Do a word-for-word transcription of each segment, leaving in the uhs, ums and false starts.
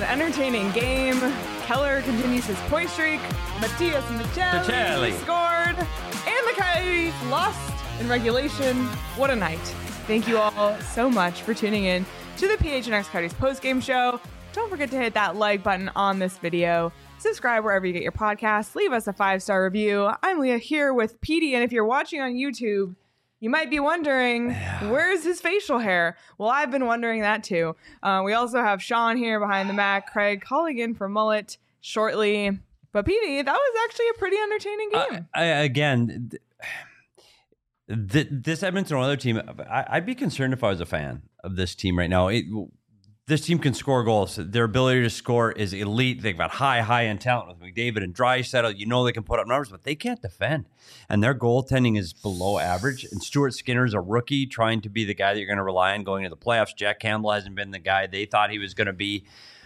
entertaining game. Keller continues his point streak. Matias Machelli scored. And the Coyotes lost in regulation. What a night. Thank you all so much for tuning in to the P H N X Coyotes postgame show. Don't forget to hit that like button on this video. Subscribe wherever you get your podcasts. Leave us a five-star review. I'm Leah here with Petey, and if you're watching on YouTube, you might be wondering, where's his facial hair? Well, I've been wondering that too. Uh, we also have Sean here behind the Mac, Craig calling in for Mullet shortly. But Petey, that was actually a pretty entertaining game. Uh, I, again, th- th- this Edmonton Oilers team, I- I'd be concerned if I was a fan of this team right now. It, this team can score goals. Their ability to score is elite. They've got high, high end talent with McDavid and Draisaitl. You know they can put up numbers, but they can't defend. And their goaltending is below average. And Stuart Skinner's a rookie trying to be the guy that you're going to rely on going into the playoffs. Jack Campbell hasn't been the guy they thought he was going to be.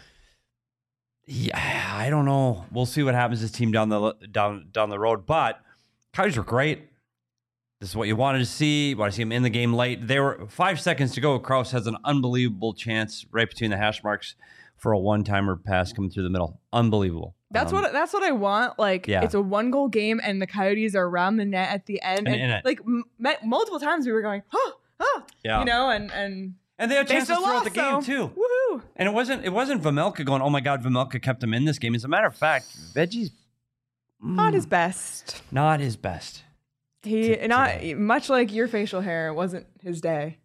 Yeah, I don't know. We'll see what happens to this team down the down down the road. But Coyotes were great. This is what you wanted to see. You want to see him in the game late. There were five seconds to go. Krause has an unbelievable chance right between the hash marks for a one-timer pass coming through the middle. Unbelievable. That's um, what that's what I want. Like, yeah. It's a one-goal game, and the Coyotes are around the net at the end. And, and like m- multiple times, we were going, oh, oh, yeah. you know, and and and they had chances they throughout lost, the game so, too. Woohoo! And it wasn't it wasn't Vejmelka going, oh my God, Vejmelka kept him in this game. As a matter of fact, Veggie's mm, not his best. Not his best. He t- not today. Much like your facial hair. It wasn't his day.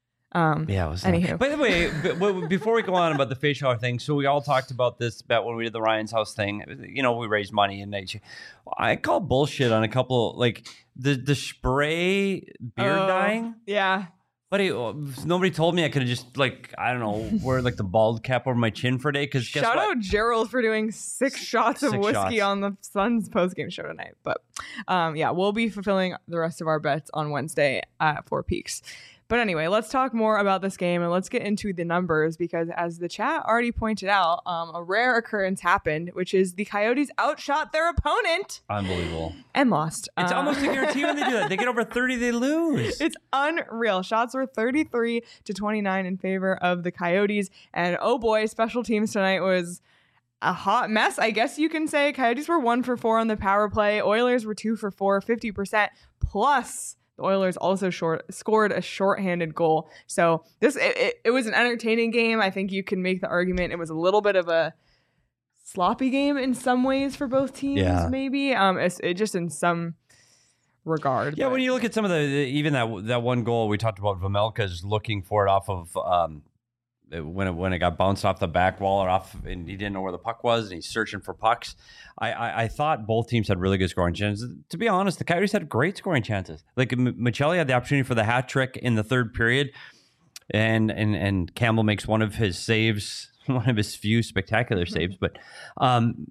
Um, yeah, it was. Anywho, by the way, b- before we go on about the facial hair thing, so we all talked about this bet when we did the Ryan's House thing. You know, we raised money, and I, I call bullshit on a couple like the the spray beard oh, dyeing. Yeah. But he, nobody told me I could have just, like, I don't know, wear, like, the bald cap over my chin for a day. Cause Shout out Gerald for doing six shots six of whiskey shots. on the Suns postgame show tonight. But, um, yeah, we'll be fulfilling the rest of our bets on Wednesday at Four Peaks. But anyway, let's talk more about this game, and let's get into the numbers, because as the chat already pointed out, um, a rare occurrence happened, which is the Coyotes outshot their opponent. Unbelievable. And lost. It's uh, almost a guarantee when they do that. They get over thirty, they lose. It's unreal. Shots were thirty-three to twenty-nine in favor of the Coyotes. And oh boy, special teams tonight was a hot mess, I guess you can say. Coyotes were one for four on the power play. Oilers were two for four, fifty percent. Plus, the Oilers also short scored a shorthanded goal. So this it, it, it was an entertaining game. I think you can make the argument it was a little bit of a sloppy game in some ways for both teams. Yeah. Maybe um, it's it just in some regard. Yeah, but. when you look at some of the even that that one goal we talked about, Vejmelka's looking for it off of um, when it when it got bounced off the back wall or off, and he didn't know where the puck was, and he's searching for pucks. I, I, I thought both teams had really good scoring chances. To be honest, the Coyotes had great scoring chances. Like M- Machelli had the opportunity for the hat trick in the third period, and and and Campbell makes one of his saves, one of his few spectacular saves. But um,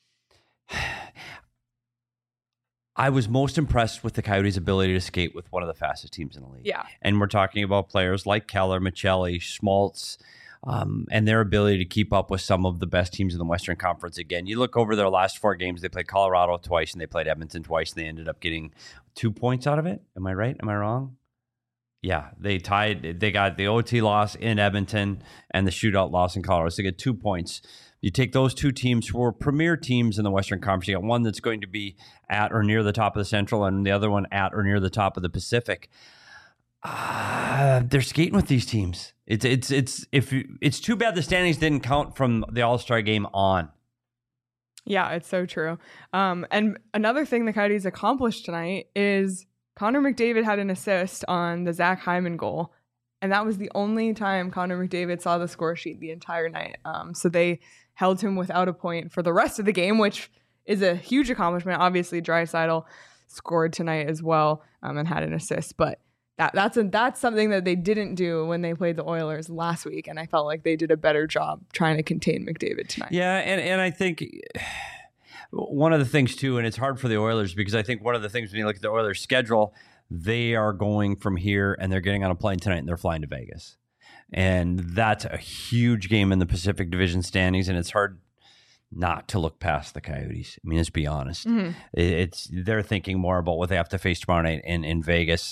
I was most impressed with the Coyotes' ability to skate with one of the fastest teams in the league. Yeah, and we're talking about players like Keller, Machelli, Schmaltz. Um, and their ability to keep up with some of the best teams in the Western Conference. Again, you look over their last four games, they played Colorado twice and they played Edmonton twice, and they ended up getting two points out of it. Am I right? Am I wrong? Yeah, they tied. They got the O T loss in Edmonton and the shootout loss in Colorado. So they get two points. You take those two teams who are premier teams in the Western Conference. You got one that's going to be at or near the top of the Central, and the other one at or near the top of the Pacific. Uh, they're skating with these teams. It's it's it's if you, it's too bad the standings didn't count from the All-Star game on. Yeah, it's so true. Um, and another thing the Coyotes accomplished tonight is Connor McDavid had an assist on the Zach Hyman goal, and that was the only time Connor McDavid saw the score sheet the entire night. Um, so they held him without a point for the rest of the game, which is a huge accomplishment. Obviously, Draisaitl scored tonight as well um, and had an assist, but That, that's a, that's something that they didn't do when they played the Oilers last week, and I felt like they did a better job trying to contain McDavid tonight. Yeah, and, and I think one of the things, too, and it's hard for the Oilers because I think one of the things when you look at the Oilers' schedule, they are going from here and they're getting on a plane tonight and they're flying to Vegas. And that's a huge game in the Pacific Division standings, and it's hard not to look past the Coyotes. I mean, let's be honest. Mm-hmm. It's they're thinking more about what they have to face tomorrow night in, in Vegas.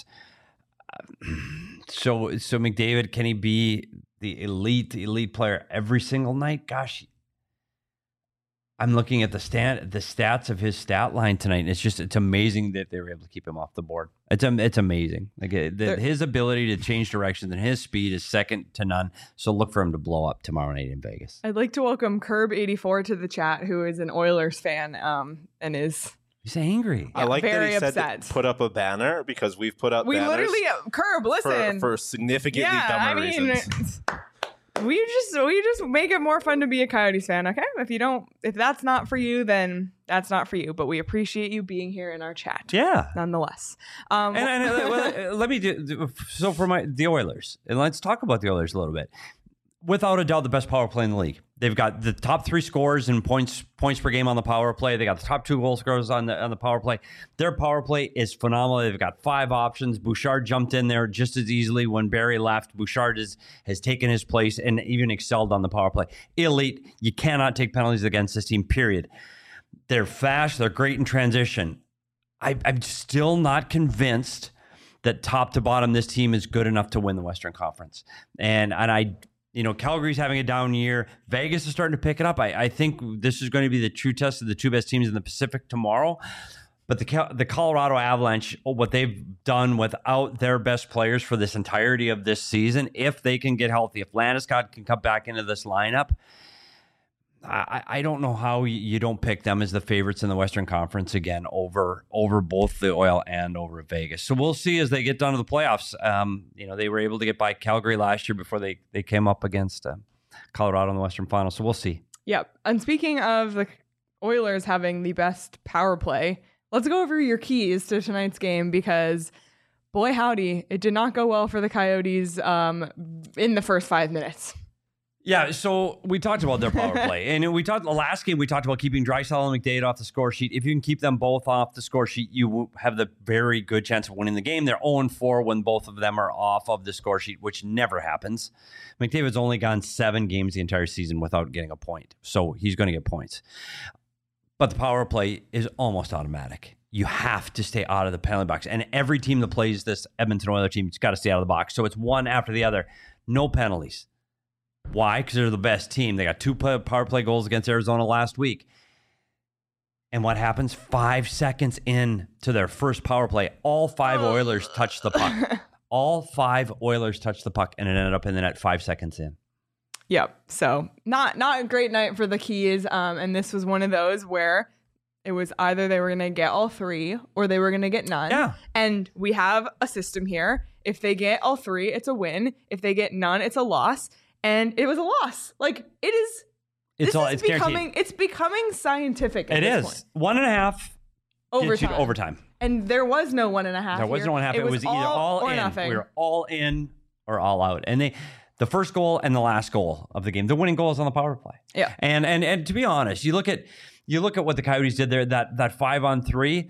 So, so McDavid, can he be the elite, elite player every single night? Gosh, I'm looking at the stat, the stats of his stat line tonight, and it's just it's amazing that they were able to keep him off the board. It's it's amazing. Like the, his ability to change directions and his speed is second to none. So look for him to blow up tomorrow night in Vegas. I'd like to welcome Curb eighty-four to the chat, who is an Oilers fan um, and is. He's angry. I like very that he upset. said put up a banner because we've put up we banners. We literally uh, Curb. Listen for, for significantly yeah, dumber I mean, reasons. We just we just make it more fun to be a Coyotes fan, okay? If you don't, if that's not for you, then that's not for you. But we appreciate you being here in our chat, yeah, nonetheless. Um, and, and uh, well, let me do so for my the Oilers, and let's talk about the Oilers a little bit. Without a doubt, the best power play in the league. They've got the top three scorers in points points per game on the power play. They got the top two goal scorers on the on the power play. Their power play is phenomenal. They've got five options. Bouchard jumped in there just as easily when Barry left. Bouchard is, has taken his place and even excelled on the power play. Elite. You cannot take penalties against this team, period. They're fast. They're great in transition. I, I'm still not convinced that top to bottom this team is good enough to win the Western Conference. And and I... You know, Calgary's having a down year. Vegas is starting to pick it up. I, I think this is going to be the true test of the two best teams in the Pacific tomorrow. But the the Colorado Avalanche, what they've done without their best players for this entirety of this season, if they can get healthy, if Landeskog can come back into this lineup, I, I don't know how you don't pick them as the favorites in the Western Conference again over over both the Oil and over Vegas. So we'll see as they get down to the playoffs. Um, you know, they were able to get by Calgary last year before they, they came up against uh, Colorado in the Western Final. So we'll see. Yep. And speaking of the Oilers having the best power play, let's go over your keys to tonight's game because, boy howdy, it did not go well for the Coyotes um, in the first five minutes. Yeah, so we talked about their power play. And we talked the last game, we talked about keeping Draisaitl and McDavid off the score sheet. If you can keep them both off the score sheet, you have the very good chance of winning the game. They're oh and four when both of them are off of the score sheet, which never happens. McDavid's only gone seven games the entire season without getting a point. So he's going to get points. But the power play is almost automatic. You have to stay out of the penalty box. And every team that plays this Edmonton Oilers team, it's got to stay out of the box. So it's one after the other. No penalties. Why? Because they're the best team. They got two power play goals against Arizona last week. And what happens? Five seconds in to their first power play, all five oh. Oilers touch the puck. All five Oilers touch the puck, and it ended up in the net five seconds in. Yep. So not not a great night for the Keys. Um, and this was one of those where it was either they were going to get all three or they were going to get none. Yeah. And we have a system here. If they get all three, it's a win. If they get none, it's a loss. And it was a loss. Like it is. It's this all. is It's becoming. guaranteed. It's becoming scientific. At it this is point. one and a half overtime. Overtime. And there was no one and a half. There was here. no one and a half. It, It, was, was, all either all or in. nothing. We were all in or all out. And they, the first goal and the last goal of the game, the winning goal is on the power play. Yeah. And and and to be honest, you look at you look at what the Coyotes did there. That that five on three.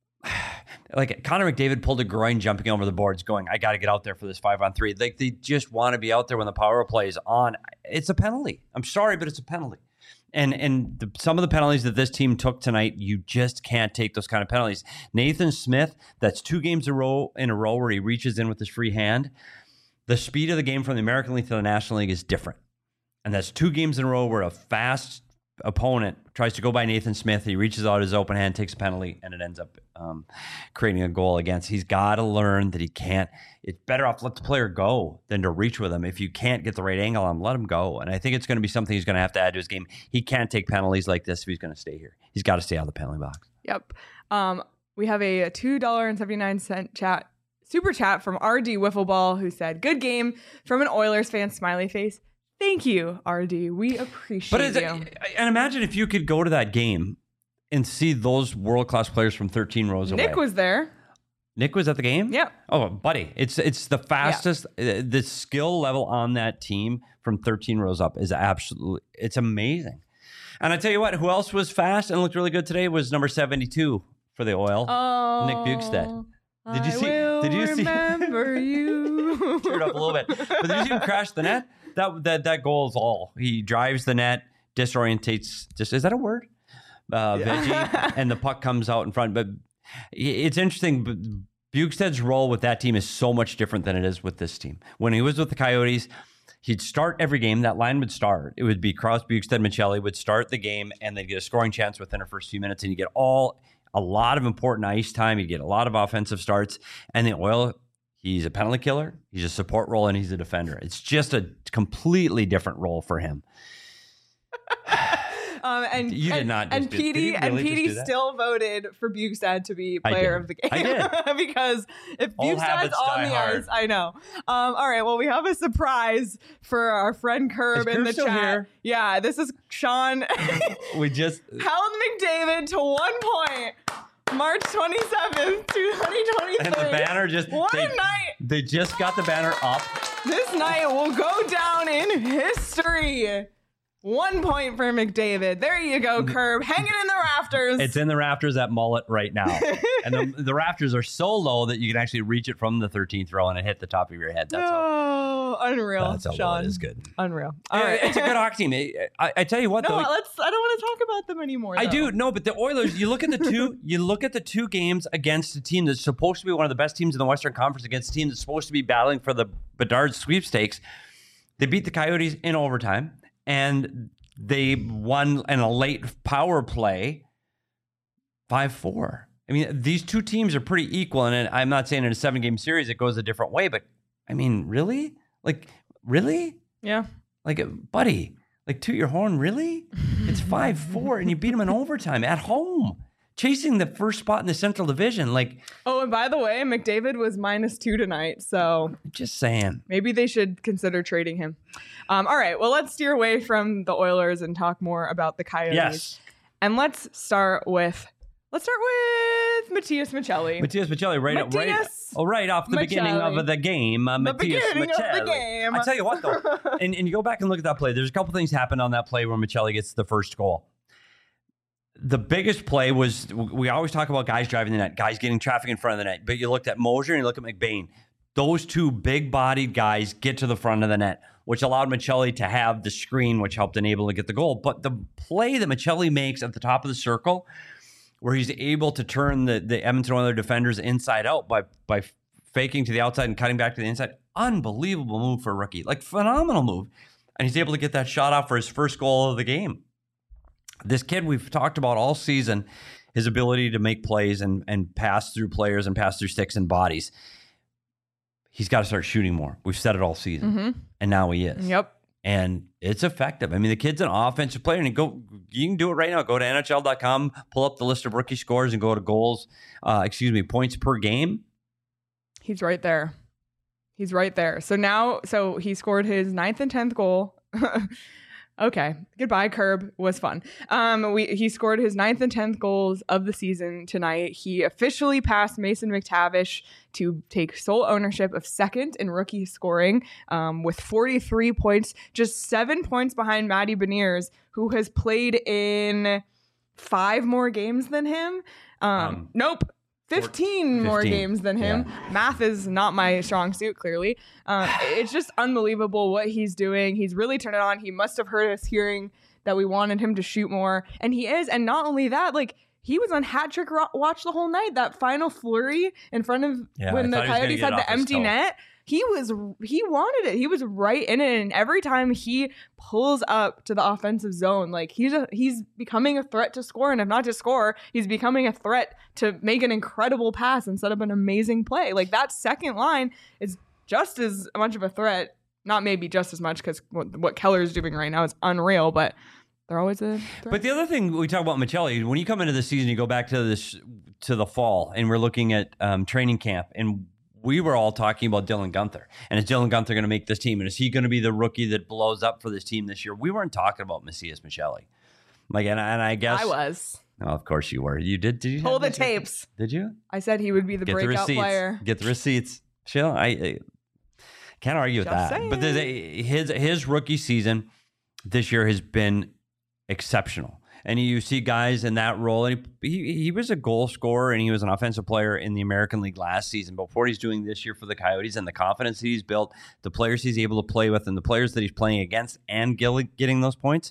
Like Connor McDavid pulled a groin jumping over the boards going, I got to get out there for this five on three. Like they just want to be out there when the power play is on. It's a penalty. I'm sorry, but it's a penalty. And and the, some of the penalties that this team took tonight, you just can't take those kind of penalties. Nathan Smith, that's two games in a row, in a row where he reaches in with his free hand. The speed of the game from the American League to the National League is different. And that's two games in a row where a fast opponent tries to go by Nathan Smith. He reaches out his open hand, takes a penalty, and it ends up um, creating a goal against. He's got to learn that he can't. It's better off let the player go than to reach with him. If you can't get the right angle on him, let him go. And I think it's going to be something he's going to have to add to his game. He can't take penalties like this if he's going to stay here. He's got to stay out of the penalty box. Yep. Um, we have a two dollars and seventy-nine cents chat super chat from R D Wiffleball who said, "Good game," from an Oilers fan, smiley face. Thank you, R D. We appreciate but you. And imagine if you could go to that game and see those world-class players from thirteen rows away. Nick was there. Nick was at the game? Yeah. Oh, buddy. It's it's the fastest. Yeah. The skill level on that team from thirteen rows up is absolutely, it's amazing. And I tell you what, who else was fast and looked really good today was number seventy-two for the Oil, oh, Nick Bjugstad. Did you I see? Will did you remember see? you? Teared up a little bit. But did you see him crash the net? That that that goal is all. He drives the net, disorientates. Just is that a word? Uh, Yeah. Veggie, and the puck comes out in front. But it's interesting. But Bjugstad's role with that team is so much different than it is with this team. When he was with the Coyotes, He'd start every game. That line would start. It would be Krause, Bjugstad, Michelli would start the game, and they'd get a scoring chance within the first few minutes, and you get all a lot of important ice time. You get a lot of offensive starts, and the Oil, he's a penalty killer, he's a support role, and he's a defender. It's just a completely different role for him. Um, and you did and, not. And P D really and P D still voted for Bjugstad to be player of the game. I did. Because if All Bjugstad's on the hard. ice, I know. Um, all right. Well, we have a surprise for our friend Curb Is in Curb the still chat. here? Yeah, this is Sean. We just Held McDavid to one point. March twenty-seventh, twenty twenty-three. and the banner just What they, a night! They just got the banner up. This night will go down in history. One point for McDavid. There you go, Curb. Hanging in the rafters. It's in the rafters at Mullet right now. And the, the rafters are so low that you can actually reach it from the thirteenth row and it hit the top of your head. That's how, oh, unreal. that's how Sean. low it is good. Unreal. All Yeah, right. It's a good hockey team. I, I tell you what, No, though. let's. I don't want to talk about them anymore. I though. do no, but the Oilers. You look at the two. You look at the two games against a team that's supposed to be one of the best teams in the Western Conference against a team that's supposed to be battling for the Bedard sweepstakes. They beat the Coyotes in overtime, and they won in a late power play, five four. I mean, these two teams are pretty equal, and I'm not saying in a seven-game series it goes a different way, but I mean, really, like, really, Yeah. like, buddy. Like, toot your horn, really? It's five four, and you beat them in overtime at home, chasing the first spot in the Central Division. Like, Oh, and by the way, McDavid was minus two tonight, so just saying. maybe they should consider trading him. Um, all right, well, let's steer away from the Oilers and talk more about the Coyotes. Yes. And let's start with let's start with Matias Michelli. Matias Michelli, right, right, Matias oh, right off the beginning Michelli. of the game. Uh, The Matias beginning of the Michelli. game. I tell you what, though, and, and you go back and look at that play. There's a couple things happened on that play where Michelli gets the first goal. The biggest play was, we always talk about guys driving the net, guys getting traffic in front of the net, but you looked at Mosier and you look at McBain. Those two big-bodied guys get to the front of the net, which allowed Michelli to have the screen, which helped enable to get the goal. But the play that Michelli makes at the top of the circle, where he's able to turn the, the Edmonton Oilers defenders inside out by by faking to the outside and cutting back to the inside, unbelievable move for a rookie. Like, phenomenal move. And he's able to get that shot off for his first goal of the game. This kid we've talked about all season, his ability to make plays and, and pass through players and pass through sticks and bodies. He's got to start shooting more. We've said it all season. Mm-hmm. And now he is. Yep. And it's effective. I mean, the kid's an offensive player, and you go, you can do it right now. Go to N H L dot com, pull up the list of rookie scores, and go to goals, uh, excuse me, points per game. He's right there. He's right there. So now, so he scored his ninth and tenth goal. Okay. Goodbye, Curb. Was fun. Um, we he scored his ninth and tenth goals of the season tonight. He officially passed Mason McTavish to take sole ownership of second in rookie scoring, um, with forty-three points, just seven points behind Matty Beniers, who has played in five more games than him. Um, Um, nope. fifteen more fifteen. games than him. Yeah. Math is not my strong suit, clearly. Um, it's just unbelievable what he's doing. He's really turned it on. He must have heard us hearing that we wanted him to shoot more. And he is. And not only that, like, he was on hat trick ro- watch the whole night. That final flurry in front of Yeah, when I the thought he was gonna Coyotes get had it the off his empty toe. net. He was, he wanted it. He was right in it. And every time he pulls up to the offensive zone, like he's a, he's becoming a threat to score. And if not to score, he's becoming a threat to make an incredible pass and set up an amazing play. Like, that second line is just as much of a threat. Not maybe just as much, because what, what Keller's doing right now is unreal, but they're always a threat. But the other thing we talk about Michelli, when you come into the season, you go back to this to the fall, and we're looking at um, training camp, and we were all talking about Dylan Guenther. And is Dylan Guenther going to make this team? And is he going to be the rookie that blows up for this team this year? We weren't talking about Matias Michelli. Like, and, and I guess I was. Oh, of course you were. You did. Did you Pull have the Matias? tapes. Did you I said he would be the get the breakout receipts? player. Get the receipts. Chill. I, I can't argue with Just that. But the, saying. his his rookie season this year has been exceptional. And you see guys in that role, and he, he he was a goal scorer, and he was an offensive player in the American League last season. But what he's doing this year for the Coyotes, and the confidence that he's built, the players he's able to play with, and the players that he's playing against, and getting those points,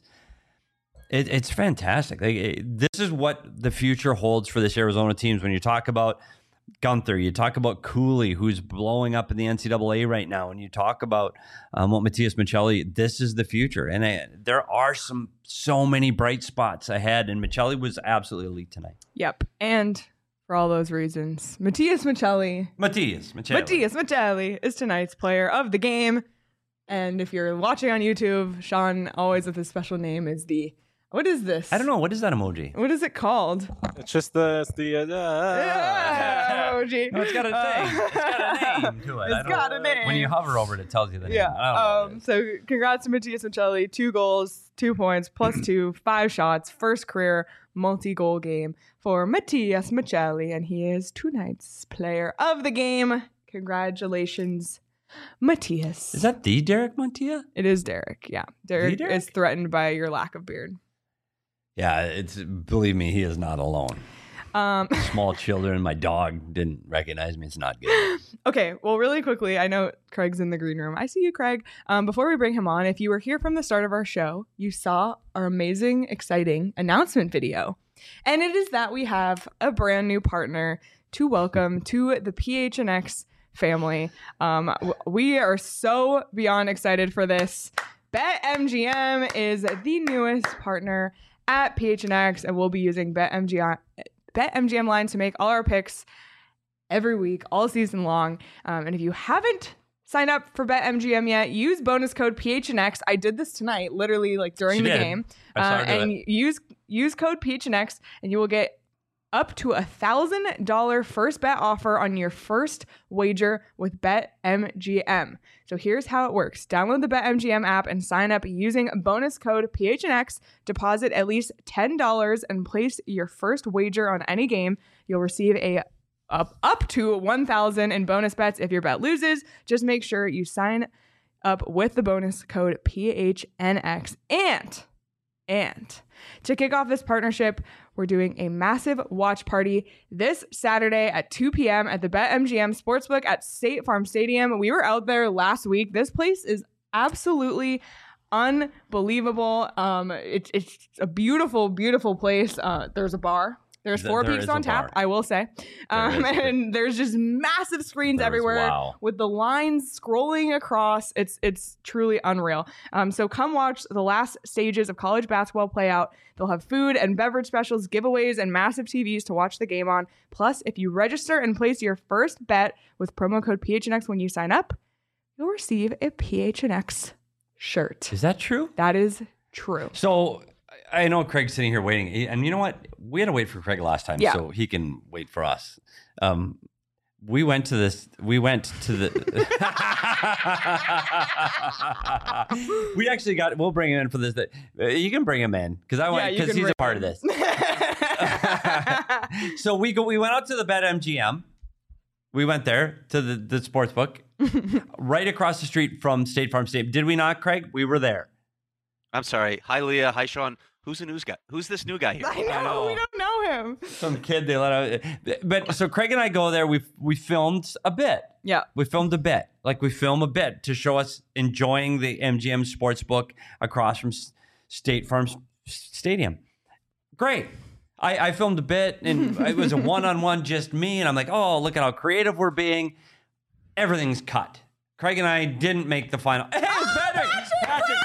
it, it's fantastic. Like, it, this is what the future holds for this Arizona team. When you talk about Gunther, you talk about Cooley, who's blowing up in the N C double A right now, and you talk about um, what Matias Michelli, this is the future. And I, there are some so many bright spots ahead, and Michelli was absolutely elite tonight. Yep. And for all those reasons, Matias Michelli. Matias Michelli. Matias Michelli is tonight's player of the game. And if you're watching on YouTube, Sean, always with his special name, is the... What is this? I don't know. What is that emoji? What is it called? It's just the it's the uh, yeah, emoji. No, it's got a thing. Uh, it's got a name to it. It's got a name. When you hover over it, it tells you the name. Yeah. Um, so congrats to Matias Michelli. Two goals, two points, plus two, five shots. First career multi-goal game for Matias Michelli, and he is tonight's player of the game. Congratulations, Matias. Is that the Derek Montia? It is Derek. Yeah, Derek, Derek is threatened by your lack of beard. Yeah, it's believe me, he is not alone. Um, Small children, my dog didn't recognize me. It's not good. Okay, well, really quickly, I know Craig's in the green room. I see you, Craig. Um, before we bring him on, if you were here from the start of our show, you saw our amazing, exciting announcement video. And it is that we have a brand new partner to welcome to the P H N X family. Um, w- we are so beyond excited for this. BetMGM is the newest partner at P H N X, and we'll be using BetMGM, BetMGM lines to make all our picks every week, all season long. Um, and if you haven't signed up for BetMGM yet, use bonus code P H N X. I did this tonight, literally like during she the did. game. I saw her Uh, do and it. use use code P H N X, and you will get up to a thousand dollar first bet offer on your first wager with BetMGM. So here's how it works. Download the BetMGM app and sign up using bonus code P H N X. Deposit at least ten dollars and place your first wager on any game. You'll receive a up, up to one thousand dollars in bonus bets if your bet loses. Just make sure you sign up with the bonus code P H N X. And, and to kick off this partnership, we're doing a massive watch party this Saturday at two p.m. at the BetMGM Sportsbook at State Farm Stadium. We were out there last week. This place is absolutely unbelievable. Um, it's it's a beautiful, beautiful place. Uh, there's a bar. There's four There peaks is on a tap, bar. I will say. Um, is. and there's just massive screens There is, everywhere wow. with the lines scrolling across. It's it's truly unreal. Um, so come watch the last stages of college basketball play out. They'll have food and beverage specials, giveaways, and massive T Vs to watch the game on. Plus, if you register and place your first bet with promo code P H N X when you sign up, you'll receive a P H N X shirt. Is that true? That is true. So I know Craig's sitting here waiting, and you know what? We had to wait for Craig last time, Yeah. so he can wait for us. Um, we went to this. We went to the. we actually got. We'll bring him in for this. Uh, You can bring him in because I Yeah, went you because can he's a bring part of this. So we go. We went out to the BetMGM. We went there to the the sports book, right across the street from State Farm Stadium. Did we not, Craig? We were there. I'm sorry. Hi, Leah. Hi, Sean. Who's the news guy? Who's this new guy here? I know, know. we don't know him. Some kid they let out. But so Craig and I go there. We we filmed a bit. Yeah. We filmed a bit. Like we film a bit to show us enjoying the M G M Sportsbook across from S- State Farm S- Stadium. Great. I, I filmed a bit, and it was a one-on-one, just me. And I'm like, oh, look at how creative we're being. Everything's cut. Craig and I didn't make the final. Hey, Oh, Patrick! Patrick!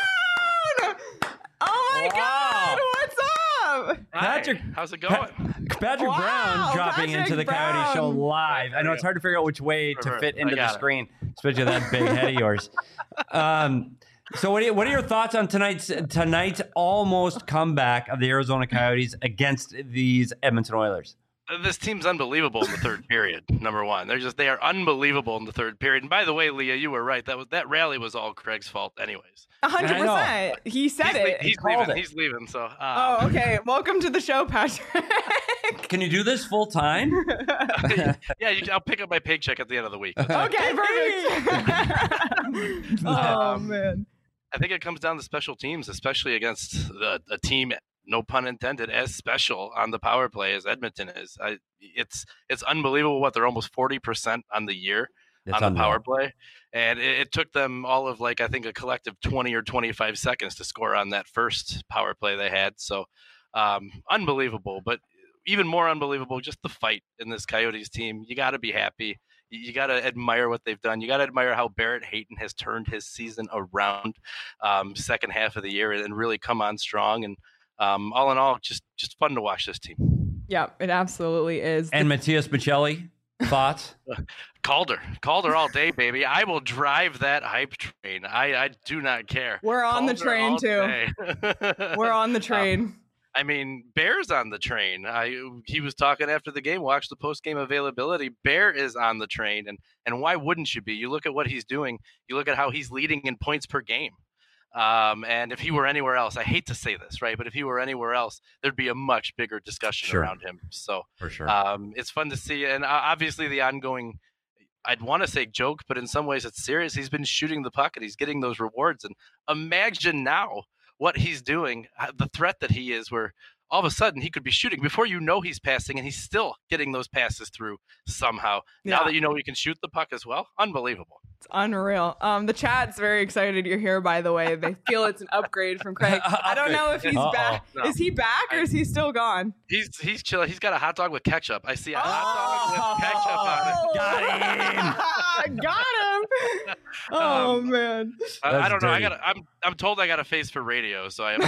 Oh my Wow. God! What's up? Patrick, Hi, how's it going? Pa- Patrick Wow, Brown dropping Patrick into the Coyote Show Brown. live. I know it's hard to figure out which way to Perfect. fit I into the got it. screen, especially that big head of yours. Um, so, what are, you, what are your thoughts on tonight's tonight's almost comeback of the Arizona Coyotes against these Edmonton Oilers? This team's unbelievable in the third period. Number one, they're just they are unbelievable in the third period. And by the way, Leah, you were right. That was that rally was all Craig's fault, anyways. A hundred I know. percent. He said He's, le- it. he's called leaving. it. He's leaving. So. Um, Oh, okay. Welcome to the show, Patrick. Can you do this full time? yeah, you, I'll pick up my paycheck at the end of the week. Okay, perfect. Oh man. I think it comes down to special teams, especially against the, a team, no pun intended, as special on the power play as Edmonton is. I, it's it's unbelievable what they're almost forty percent on the year It's on the unreal. power play. And it, it took them all of like, I think a collective twenty or twenty-five seconds to score on that first power play they had. So um, unbelievable. But even more unbelievable, just the fight in this Coyotes team. You got to be happy. You, you got to admire what they've done. You got to admire how Barrett Hayton has turned his season around, um, second half of the year, and, and really come on strong. And um, all in all, just just fun to watch this team. Yeah, it absolutely is. And Matias Maccelli, thoughts? Calder, Calder all day, baby. I will drive that hype train. I, I do not care. We're on Calder the train too. We're on the train. Um, I mean, Bear's on the train. I he was talking after the game. Watch the post game availability. Bear is on the train, and and why wouldn't you be? You look at what he's doing. You look at how he's leading in points per game. Um, and if he were anywhere else, I hate to say this, right? But if he were anywhere else, there'd be a much bigger discussion Sure. around him. So For sure. um, it's fun to see, and uh, obviously the ongoing. I'd want to say joke, but in some ways it's serious. He's been shooting the puck and he's getting those rewards. And imagine now what he's doing, the threat that he is, where all of a sudden he could be shooting before you know he's passing, and he's still getting those passes through somehow. Yeah. Now that you know he can shoot the puck as well, unbelievable. It's unreal. Um, the chat's very excited you're here, by the way. They feel it's an upgrade from Craig. I don't know if he's Uh-oh. back. No. Is he back or is he still gone? He's he's chilling. He's got a hot dog with ketchup. I see a hot dog with ketchup on it. Got him. Got him. Oh Um, man. I, I That's don't know. I dirty. got. I'm I'm told I got a face for radio, so I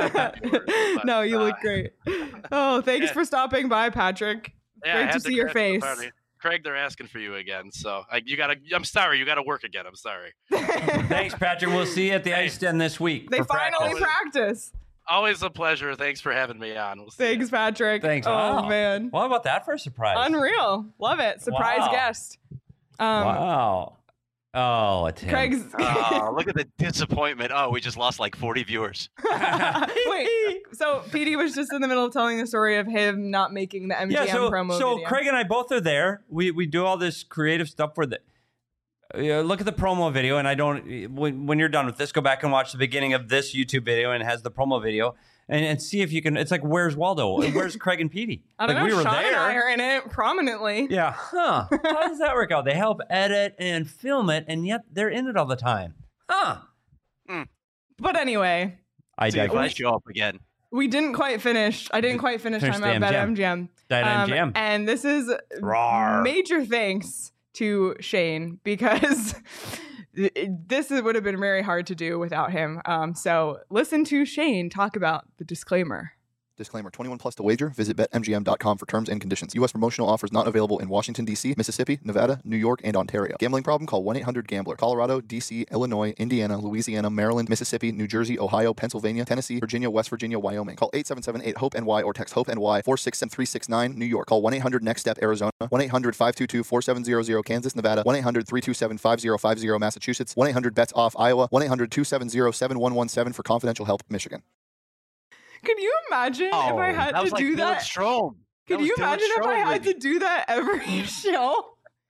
have. No, you look uh, great. Oh, thanks yeah. for stopping by, Patrick. Yeah, I Great had to see your crash the face. party. Craig, they're asking for you again, so I, you gotta. I'm sorry, you gotta work again. I'm sorry. Thanks, Patrick. We'll see you at the Ice Den this week. They for finally practice. practice. Always a pleasure. Thanks for having me on. We'll see Thanks, you. Patrick. Thanks. Oh Wow. man, Well, how about that for a surprise? unreal. Love it. Surprise Wow. guest. Um, Wow. Oh, it's him. Craig's. Oh, look at the disappointment. Oh, we just lost like forty viewers. Wait, so P D was just in the middle of telling the story of him not making the M G M yeah, so, promo so video. Craig and I both are there. We we do all this creative stuff for the. Uh, look at the promo video, and I don't. When, when you're done with this, go back and watch the beginning of this YouTube video, and it has the promo video, and, and see if you can. It's like, where's Waldo? Where's Craig and Petey? I don't like, know. we were Sean and I there. are in it prominently. Yeah, huh? How does that work out? They help edit and film it, and yet they're in it all the time, huh? But anyway, I See if I digress. show up again. we didn't quite finish. I didn't quite finish Finish time the out bet M G M. M G M. That Um, M G M. And this is Rawr. major thanks to Shane because this would have been very hard to do without him. Um, so listen to Shane talk about the disclaimer. Disclaimer, twenty-one plus to wager. Visit bet M G M dot com for terms and conditions. U S promotional offers not available in Washington, D C, Mississippi, Nevada, New York, and Ontario. Gambling problem? Call one eight hundred gambler. Colorado, D C, Illinois, Indiana, Louisiana, Maryland, Mississippi, New Jersey, Ohio, Pennsylvania, Tennessee, Virginia, West Virginia, Wyoming. Call eight seven seven eight hope N Y or text HOPE-NY four six seven three six nine, New York. Call one eight hundred next step Arizona. one eight hundred five two two four seven zero zero, Kansas, Nevada. one eight hundred three two seven five zero five zero, Massachusetts. one eight hundred bets off, Iowa. one eight hundred two seven zero seven one one seven for confidential help, Michigan. Can you imagine Oh, if I had that was to like do Dylan that? Strome. That Could was you Dylan imagine if I Strome had with to do that every show?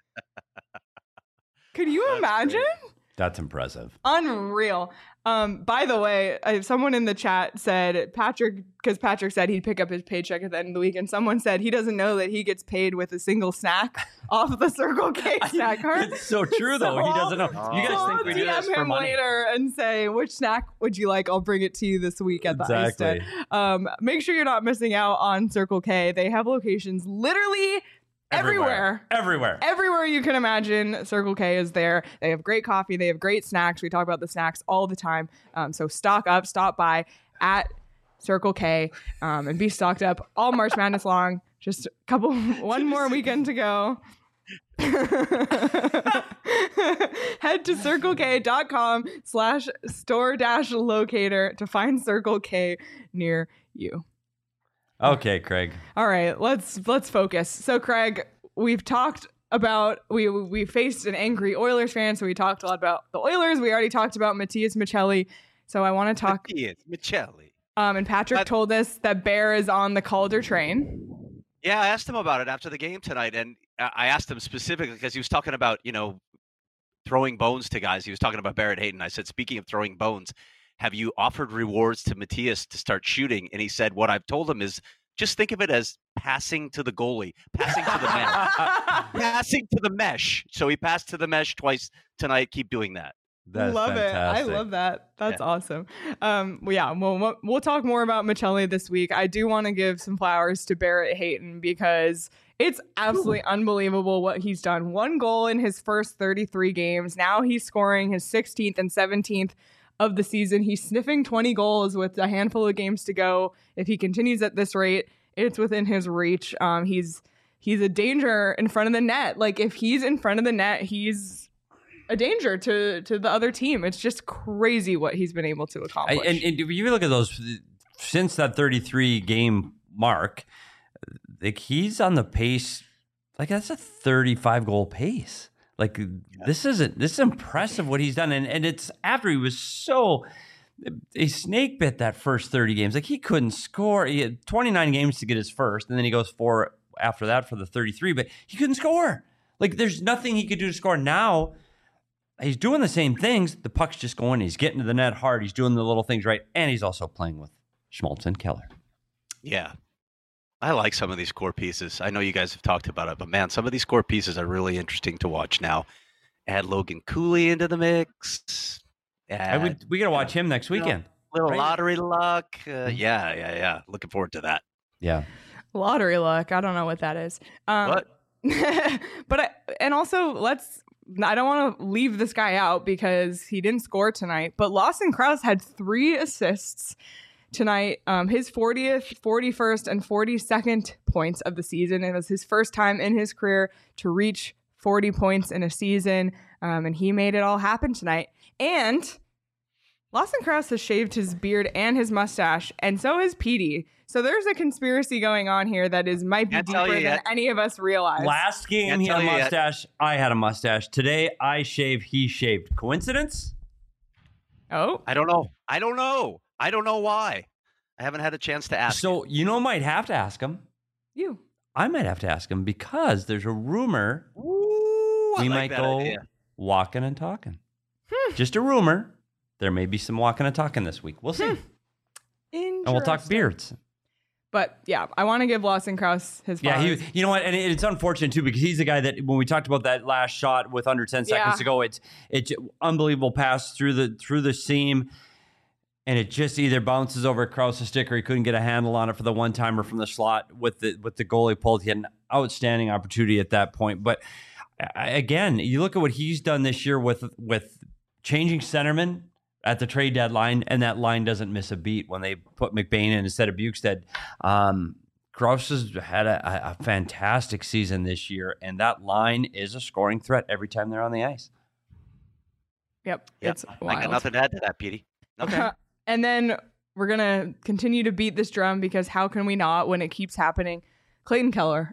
Could you That's imagine? great. That's impressive. Unreal. Um, by the way, I, someone in the chat said Patrick, because Patrick said he'd pick up his paycheck at the end of the week, and someone said he doesn't know that he gets paid with a single snack off the Circle K snack card. It's so true, though. So he doesn't know. I'll- You So guys I'll think we do D M this for him money? later and say, which snack would you like? I'll bring it to you this week at the Ice Exactly. Den. Um, make sure you're not missing out on Circle K. They have locations literally everywhere. Everywhere. Everywhere you can imagine, Circle K is there. They have great coffee. They have great snacks. We talk about the snacks all the time. Um, so stock up, stop by at Circle K um, and be stocked up all March Madness long. Just a couple, one more weekend to go. Head to circlek.com slash store dash locator to find Circle K near you. Okay, Craig. All right, let's let's focus. So, Craig, we've talked about we we faced an angry Oilers fan, so we talked a lot about the Oilers. We already talked about Matias Maccelli, so I want to talk. Matias Maccelli. Um, and Patrick But- told us that Bear is on the Calder train. Yeah, I asked him about it after the game tonight, and I I asked him specifically because he was talking about, you know, throwing bones to guys. He was talking about Barrett Hayton. I said, speaking of throwing bones, have you offered rewards to Matias to start shooting? And he said, what I've told him is just think of it as passing to the goalie, passing to the mesh, passing to the mesh. So he passed to the mesh twice tonight. Keep doing that. That's love fantastic. it. I love that. That's Yeah. awesome. Um, well, yeah, we'll, we'll talk more about Maccelli this week. I do want to give some flowers to Barrett Hayton because it's absolutely unbelievable what he's done. One goal in his first thirty-three games. Now he's scoring his sixteenth and seventeenth of the season. He's sniffing twenty goals with a handful of games to go. If he continues at this rate, it's within his reach. Um, he's he's a danger in front of the net. Like if he's in front of the net, he's a danger to to the other team. It's just crazy what he's been able to accomplish. I, and, and if you look at those since that thirty-three game mark, like he's on the pace. Like that's a thirty-five goal pace. Like yeah. this isn't this is impressive what he's done, and and it's after he was so he snake bit that first thirty games. Like he couldn't score. He had twenty-nine games to get his first, and then he goes four after that for the thirty-three. But he couldn't score. Like there's nothing he could do to score now. He's doing the same things. The puck's just going. He's getting to the net hard. He's doing the little things right. And he's also playing with Schmaltz and Keller. Yeah. I like some of these core pieces. I know you guys have talked about it, but man, some of these core pieces are really interesting to watch now. Add Logan Cooley into the mix. Add, I would, we got to watch him next weekend. You know, little right? lottery luck. Uh, yeah, yeah, yeah. Looking forward to that. Yeah. Lottery luck. I don't know what that is. Um, What? but I, and also let's I don't want to leave this guy out because he didn't score tonight, but Lawson Crouse had three assists tonight. Um, his fortieth, forty-first, and forty-second points of the season. It was his first time in his career to reach forty points in a season, um, and he made it all happen tonight. And Lawson Crouse has shaved his beard and his mustache, and so has Petey. So there's a conspiracy going on here that is might be Can't deeper than yet. any of us realize. Last game, Can't he had a tell you yet. mustache. I had a mustache. Today, I shaved. He shaved. Coincidence? Oh, I don't know. I don't know. I don't know why. I haven't had a chance to ask. So, you know, might have to ask him. you. I might have to ask him because there's a rumor Ooh, I we like might that go idea. walking and talking. Just a rumor. There may be some walking and talking this week. We'll see. And we'll talk Interesting. beards. But yeah, I want to give Lawson Crouse his Yeah, flowers. he, you know what? And it- it's unfortunate too because he's the guy that when we talked about that last shot with under ten seconds Yeah. to go, it's it's unbelievable pass through the through the seam, and it just either bounces over Krause's stick or he couldn't get a handle on it for the one timer from the slot with the with the goalie pulled. He had an outstanding opportunity at that point. But I- again, you look at what he's done this year with with changing centerman at the trade deadline, and that line doesn't miss a beat when they put McBain in instead of Bukestad. Um, Crouse has had a, a fantastic season this year, and that line is a scoring threat every time they're on the ice. Yep, Yep. it's I wild. got nothing to add to that, Petey. Okay. And then we're going to continue to beat this drum because how can we not when it keeps happening? Clayton Keller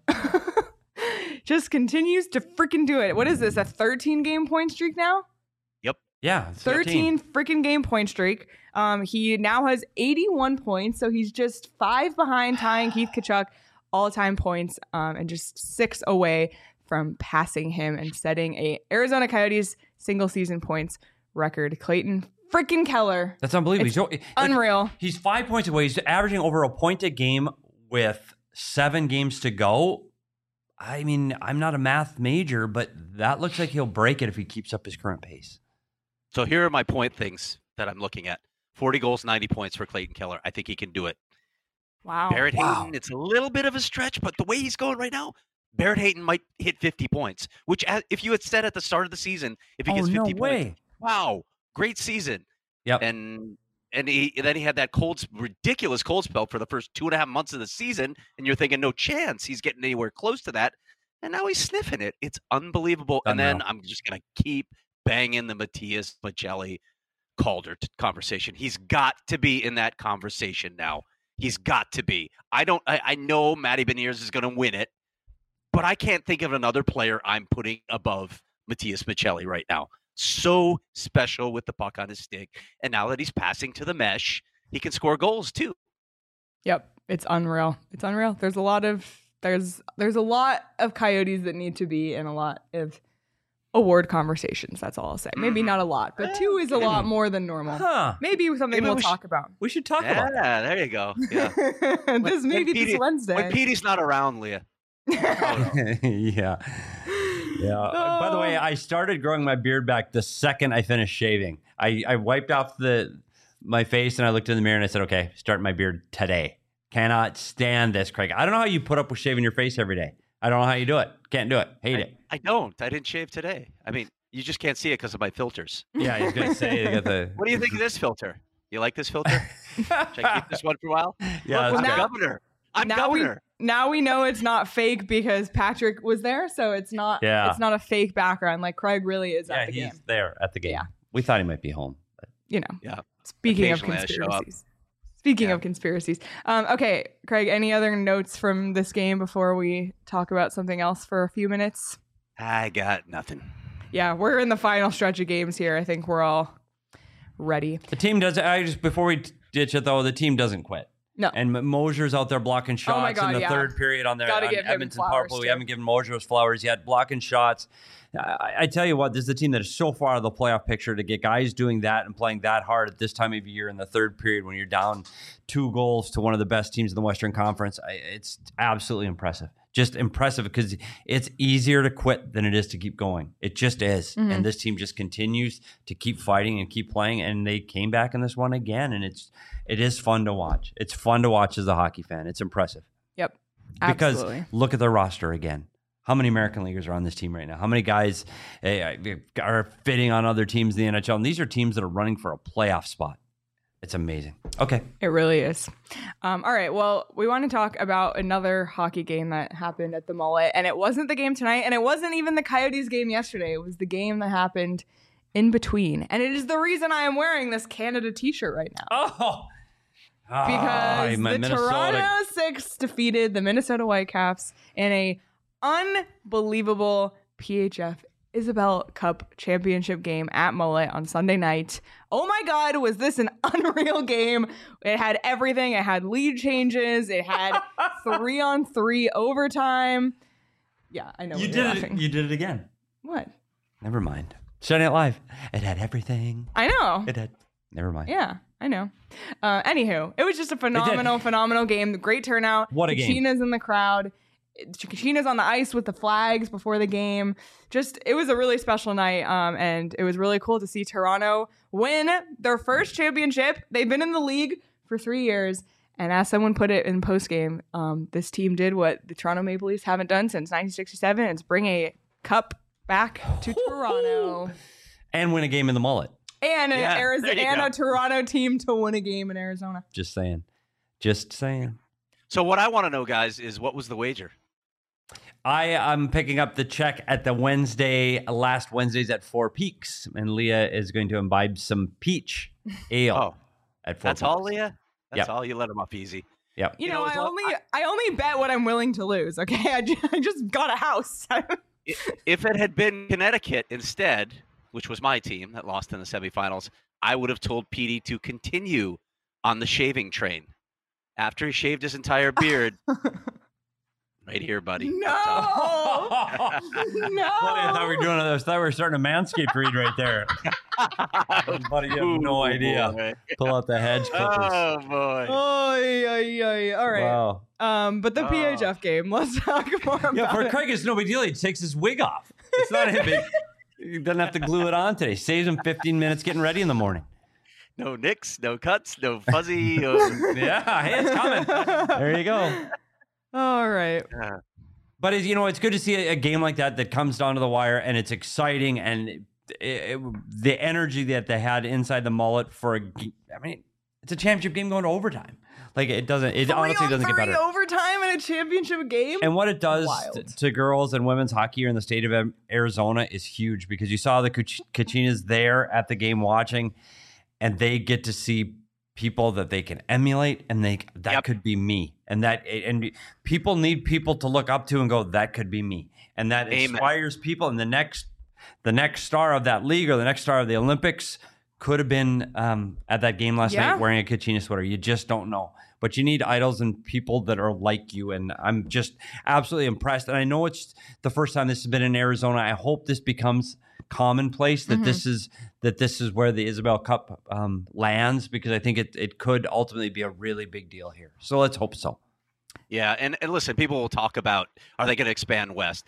just continues to freaking do it. What is this, a thirteen game point streak now? Yeah, thirteen freaking game point streak. Um, he now has eighty-one points, so he's just five behind tying Keith Tkachuk all-time points, um, and just six away from passing him and setting a Arizona Coyotes single-season points record. Clayton freaking Keller, That's unbelievable. It's He's, like, unreal. he's five points away. He's averaging over a point a game with seven games to go. I mean, I'm not a math major, but that looks like he'll break it if he keeps up his current pace. So here are my point things that I'm looking at. forty goals, ninety points for Clayton Keller. I think he can do it. Wow. Barrett Wow. Hayton, it's a little bit of a stretch, but the way he's going right now, Barrett Hayton might hit fifty points, which as- if you had said at the start of the season, if he Oh, gets no fifty points, way. wow, great season. Yep. And and he then he had that cold, ridiculous cold spell for the first two and a half months of the season, and you're thinking no chance he's getting anywhere close to that, and now he's sniffing it. It's unbelievable. And then Unreal. I'm just gonna keep banging the Matthias Maccelli Calder t- conversation. He's got to be in that conversation now. He's got to be. I don't. I, I know Matty Beniers is going to win it, but I can't think of another player I'm putting above Matthias Maccelli right now. So special with the puck on his stick, and now that he's passing to the mesh, he can score goals too. Yep, it's unreal. It's unreal. There's a lot of there's there's a lot of Coyotes that need to be in a lot of award conversations. That's all I'll say. Maybe not a lot, but two is a lot more than normal. Huh. Maybe something Maybe we'll we talk about. We should talk Yeah, about that. there you go. Yeah. this When- maybe when Petey- this Wednesday. When Petey's not around, Leah. yeah. Yeah. Oh. By the way, I started growing my beard back the second I finished shaving. I, I wiped off the my face and I looked in the mirror and I said, okay, start my beard today. Cannot stand this, Craig. I don't know how you put up with shaving your face every day. I don't know how you do it. Can't do it. Hate I, it. I don't. I didn't shave today. I mean, you just can't see it because of my filters. Yeah, he's going to say you got the. What do you think of this filter? You like this filter? Should I keep this one for a while? Yeah, Look, I'm now, governor. I'm now governor. We, now we know it's not fake because Patrick was there, so it's not. Yeah. It's not a fake background. Like Craig really is yeah, at the he's game. there at the game. Yeah. We thought he might be home. But. You know. Yeah. Speaking of Occasionally I show up. conspiracies. Speaking Yeah. of conspiracies. Um, okay, Craig, any other notes from this game before we talk about something else for a few minutes? I got nothing. Yeah, we're in the final stretch of games here. I think we're all ready. The team doesn't. I just before we ditch it though, the team doesn't quit. No. And Mosier's out there blocking shots Oh my God, in the yeah. third period on their Gotta on give him Edmonton flowers, power play. We too. haven't given Mosier his flowers yet. Blocking shots. I, I tell you what, this is a team that is so far out of the playoff picture to get guys doing that and playing that hard at this time of year in the third period when you're down two goals to one of the best teams in the Western Conference. I, it's absolutely impressive. Just impressive because it's easier to quit than it is to keep going. It just is. Mm-hmm. And this team just continues to keep fighting and keep playing. And they came back in this one again. And it's it is fun to watch. It's fun to watch as a hockey fan. It's impressive. Yep. Because Absolutely. look at the roster again. How many American leaguers are on this team right now? How many guys eh, are fitting on other teams in the N H L? And these are teams that are running for a playoff spot. It's amazing. Okay. It really is. Um, all right. Well, we want to talk about another hockey game that happened at the Mullet. And it wasn't the game tonight. And it wasn't even the Coyotes game yesterday. It was the game that happened in between. And it is the reason I am wearing this Canada t-shirt right now. Oh. Because oh, the Minnesota. Toronto Six defeated the Minnesota Whitecaps in a unbelievable P H F Isabelle Cup championship game at Mullet on Sunday night. Oh my God, was this an unreal game? It had everything. It had lead changes. It had three on three overtime. Yeah, I know. You did laughing. it. You did it again. What? Never mind. Saturday Night Live. It had everything. I know. It had. Never mind. Yeah, I know. Uh, anywho, it was just a phenomenal, phenomenal game. Great turnout. What a game. Kachina's in the crowd. Kachina's on the ice with the flags before the game. Just, it was a really special night, um, and it was really cool to see Toronto win their first championship. They've been in the league for three years, and as someone put it in postgame, um, this team did what the Toronto Maple Leafs haven't done since nineteen sixty-seven, and it's bring a cup back to Toronto. And win a game in the Mullet. And an Yeah, Arizona, there you and go. a Toronto team to win a game in Arizona. Just saying. Just saying. So what I want to know, guys, is what was the wager? I am picking up the check at the Wednesday, last Wednesdays at Four Peaks, and Leah is going to imbibe some peach ale Oh, at Four that's Peaks. all, Leah? That's Yep. all? You let him off easy. Yep. You, You know, know, I as long- only I, only bet what I'm willing to lose. Okay, I just, I just got a house. I- If it had been Connecticut instead, which was my team that lost in the semifinals, I would have told Petey to continue on the shaving train. After he shaved his entire beard, right here, buddy. No, Buddy, no. I thought we were doing. I thought we were starting a Manscaped read right there. Buddy, you have no Ooh, idea. boy. Pull out the hedge clippers. Oh boy. Oy, oy, oy. All right. Wow. Um, but the Oh. P H F game. Let's talk more about Yeah, for it. Craig, it's no big deal. He takes his wig off. It's not him. He he doesn't have to glue it on today. Saves him fifteen minutes getting ready in the morning. No nicks, no cuts, no fuzzy. uh, Yeah, hey, it's coming. There you go. All right. uh, But it's, you know, it's good to see a, a game like that that comes down to the wire, and it's exciting, and it, it, the energy that they had inside the Mullet for a, g- I mean, it's a championship game going to overtime. Like it doesn't, it Three honestly on doesn't get three better. overtime in a championship game. And what it does Wild. t- to girls and women's hockey here in the state of Am- Arizona is huge because you saw the Kach- Kachinas there at the game watching, and they get to see people that they can emulate, and they that Yep. could be me, and that and people need people to look up to and go, that could be me, and that Amen. inspires people. And the next, the next star of that league or the next star of the Olympics could have been um, at that game last Yeah. night wearing a Kachina sweater. You just don't know. But you need idols and people that are like you. And I'm just absolutely impressed. And I know it's the first time this has been in Arizona. I hope this becomes commonplace that Mhm. this is that this is where the Isabelle Cup um, lands, because I think it, it could ultimately be a really big deal here. So let's hope so. Yeah, and, and listen, people will talk about, are they going to expand west?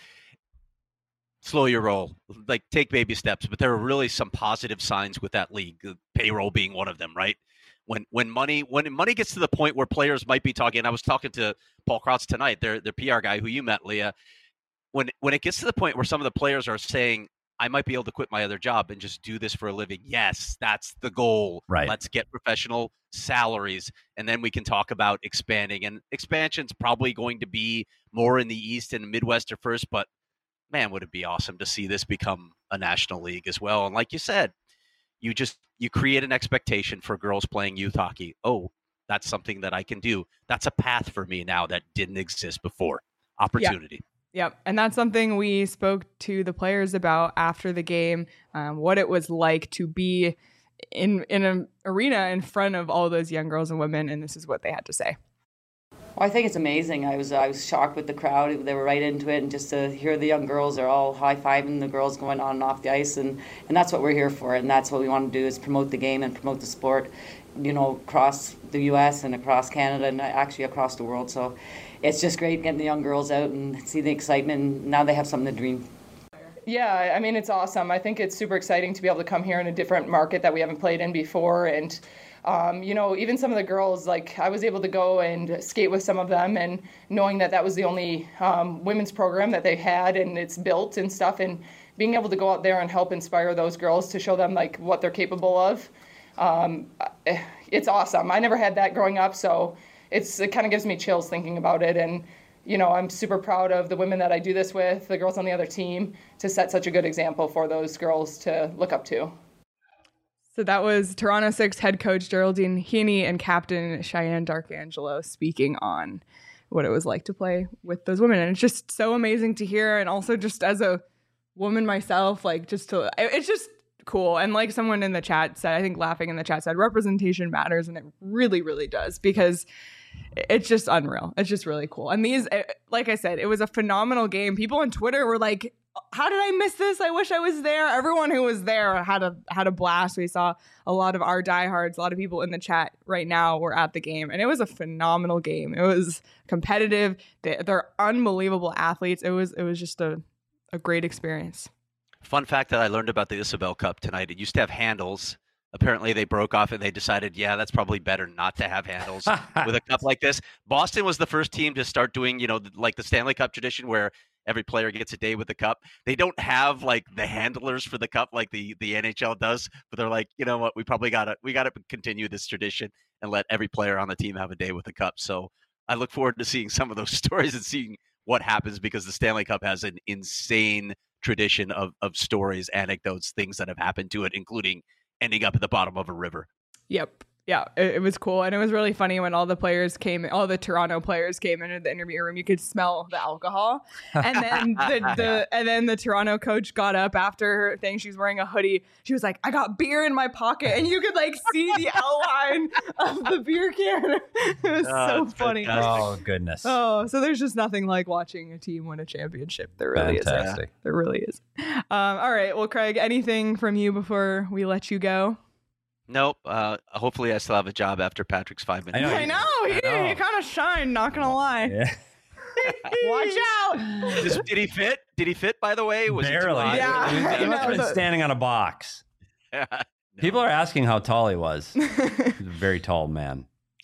Slow your roll, like take baby steps. But there are really some positive signs with that league, payroll being one of them, right? When when money when money gets to the point where players might be talking, and I was talking to Paul Krautz tonight, their their P R guy who you met, Leah. When when it gets to the point where some of the players are saying, I might be able to quit my other job and just do this for a living. Yes, that's the goal. Right. Let's get professional salaries, and then we can talk about expanding. And expansion's probably going to be more in the East and Midwest at first, but man, would it be awesome to see this become a national league as well. And like you said, you just you create an expectation for girls playing youth hockey. Oh, that's something that I can do. That's a path for me now that didn't exist before. Opportunity. Yeah. Yep. And that's something we spoke to the players about after the game, um, what it was like to be in in an arena in front of all those young girls and women. And this is what they had to say. Well, I think it's amazing. I was I was shocked with the crowd. They were right into it, and just to hear the young girls are all high-fiving the girls going on and off the ice, and, and that's what we're here for, and that's what we want to do is promote the game and promote the sport, you know, across the U S and across Canada and actually across the world. So it's just great getting the young girls out and see the excitement, and now they have something to dream. Yeah, I mean, it's awesome. I think it's super exciting to be able to come here in a different market that we haven't played in before, and Um, you know, even some of the girls, like I was able to go and skate with some of them, and knowing that that was the only um, women's program that they had and it's built and stuff, and being able to go out there and help inspire those girls to show them like what they're capable of. Um, it's awesome. I never had that growing up, so it's it kind of gives me chills thinking about it. And, you know, I'm super proud of the women that I do this with, the girls on the other team, to set such a good example for those girls to look up to. So that was Toronto Six head coach Geraldine Heaney and captain Cheyenne Darkangelo speaking on what it was like to play with those women. And it's just so amazing to hear. And also just as a woman myself, like just to, it's just cool. And like someone in the chat said, I think laughing in the chat said, representation matters. And it really, really does, because it's just unreal. It's just really cool. And these, like I said, it was a phenomenal game. People on Twitter were like, how did I miss this? I wish I was there. Everyone who was there had a had a blast. We saw a lot of our diehards, a lot of people in the chat right now were at the game, and it was a phenomenal game. It was competitive. They, they're unbelievable athletes. It was it was just a, a great experience. Fun fact that I learned about the Isabel Cup tonight: it used to have handles. Apparently, they broke off and they decided, yeah, that's probably better not to have handles with a cup like this. Boston was the first team to start doing, you know, like the Stanley Cup tradition where every player gets a day with the cup. They don't have like the handlers for the cup like the, the N H L does, but they're like, you know what, we probably got to we got to continue this tradition and let every player on the team have a day with the cup. So I look forward to seeing some of those stories and seeing what happens, because the Stanley Cup has an insane tradition of of stories, anecdotes, things that have happened to it, including ending up at the bottom of a river. Yep. Yeah, it, it was cool. And it was really funny when all the players came, all the Toronto players came into the interview room, you could smell the alcohol. And then the, the and then the Toronto coach got up after her thing. She was wearing a hoodie. She was like, I got beer in my pocket. And you could like see the outline of the beer can. It was Oh, so funny. fantastic. Oh, goodness. Oh, so there's just nothing like watching a team win a championship. There really Fantastic. is. There really is. Um, all right. Well, Craig, anything from you before we let you go? Nope. Uh, hopefully, I still have a job after Patrick's five minutes. I know. I know. He, I know. he kind of shined, not going to lie. Yeah. Watch out. Did, did he fit? Did he fit? By the way, was Barely. He too Yeah. He, was- he I must have know, been the- standing on a box. high? People are asking how tall he was. He's a very tall man.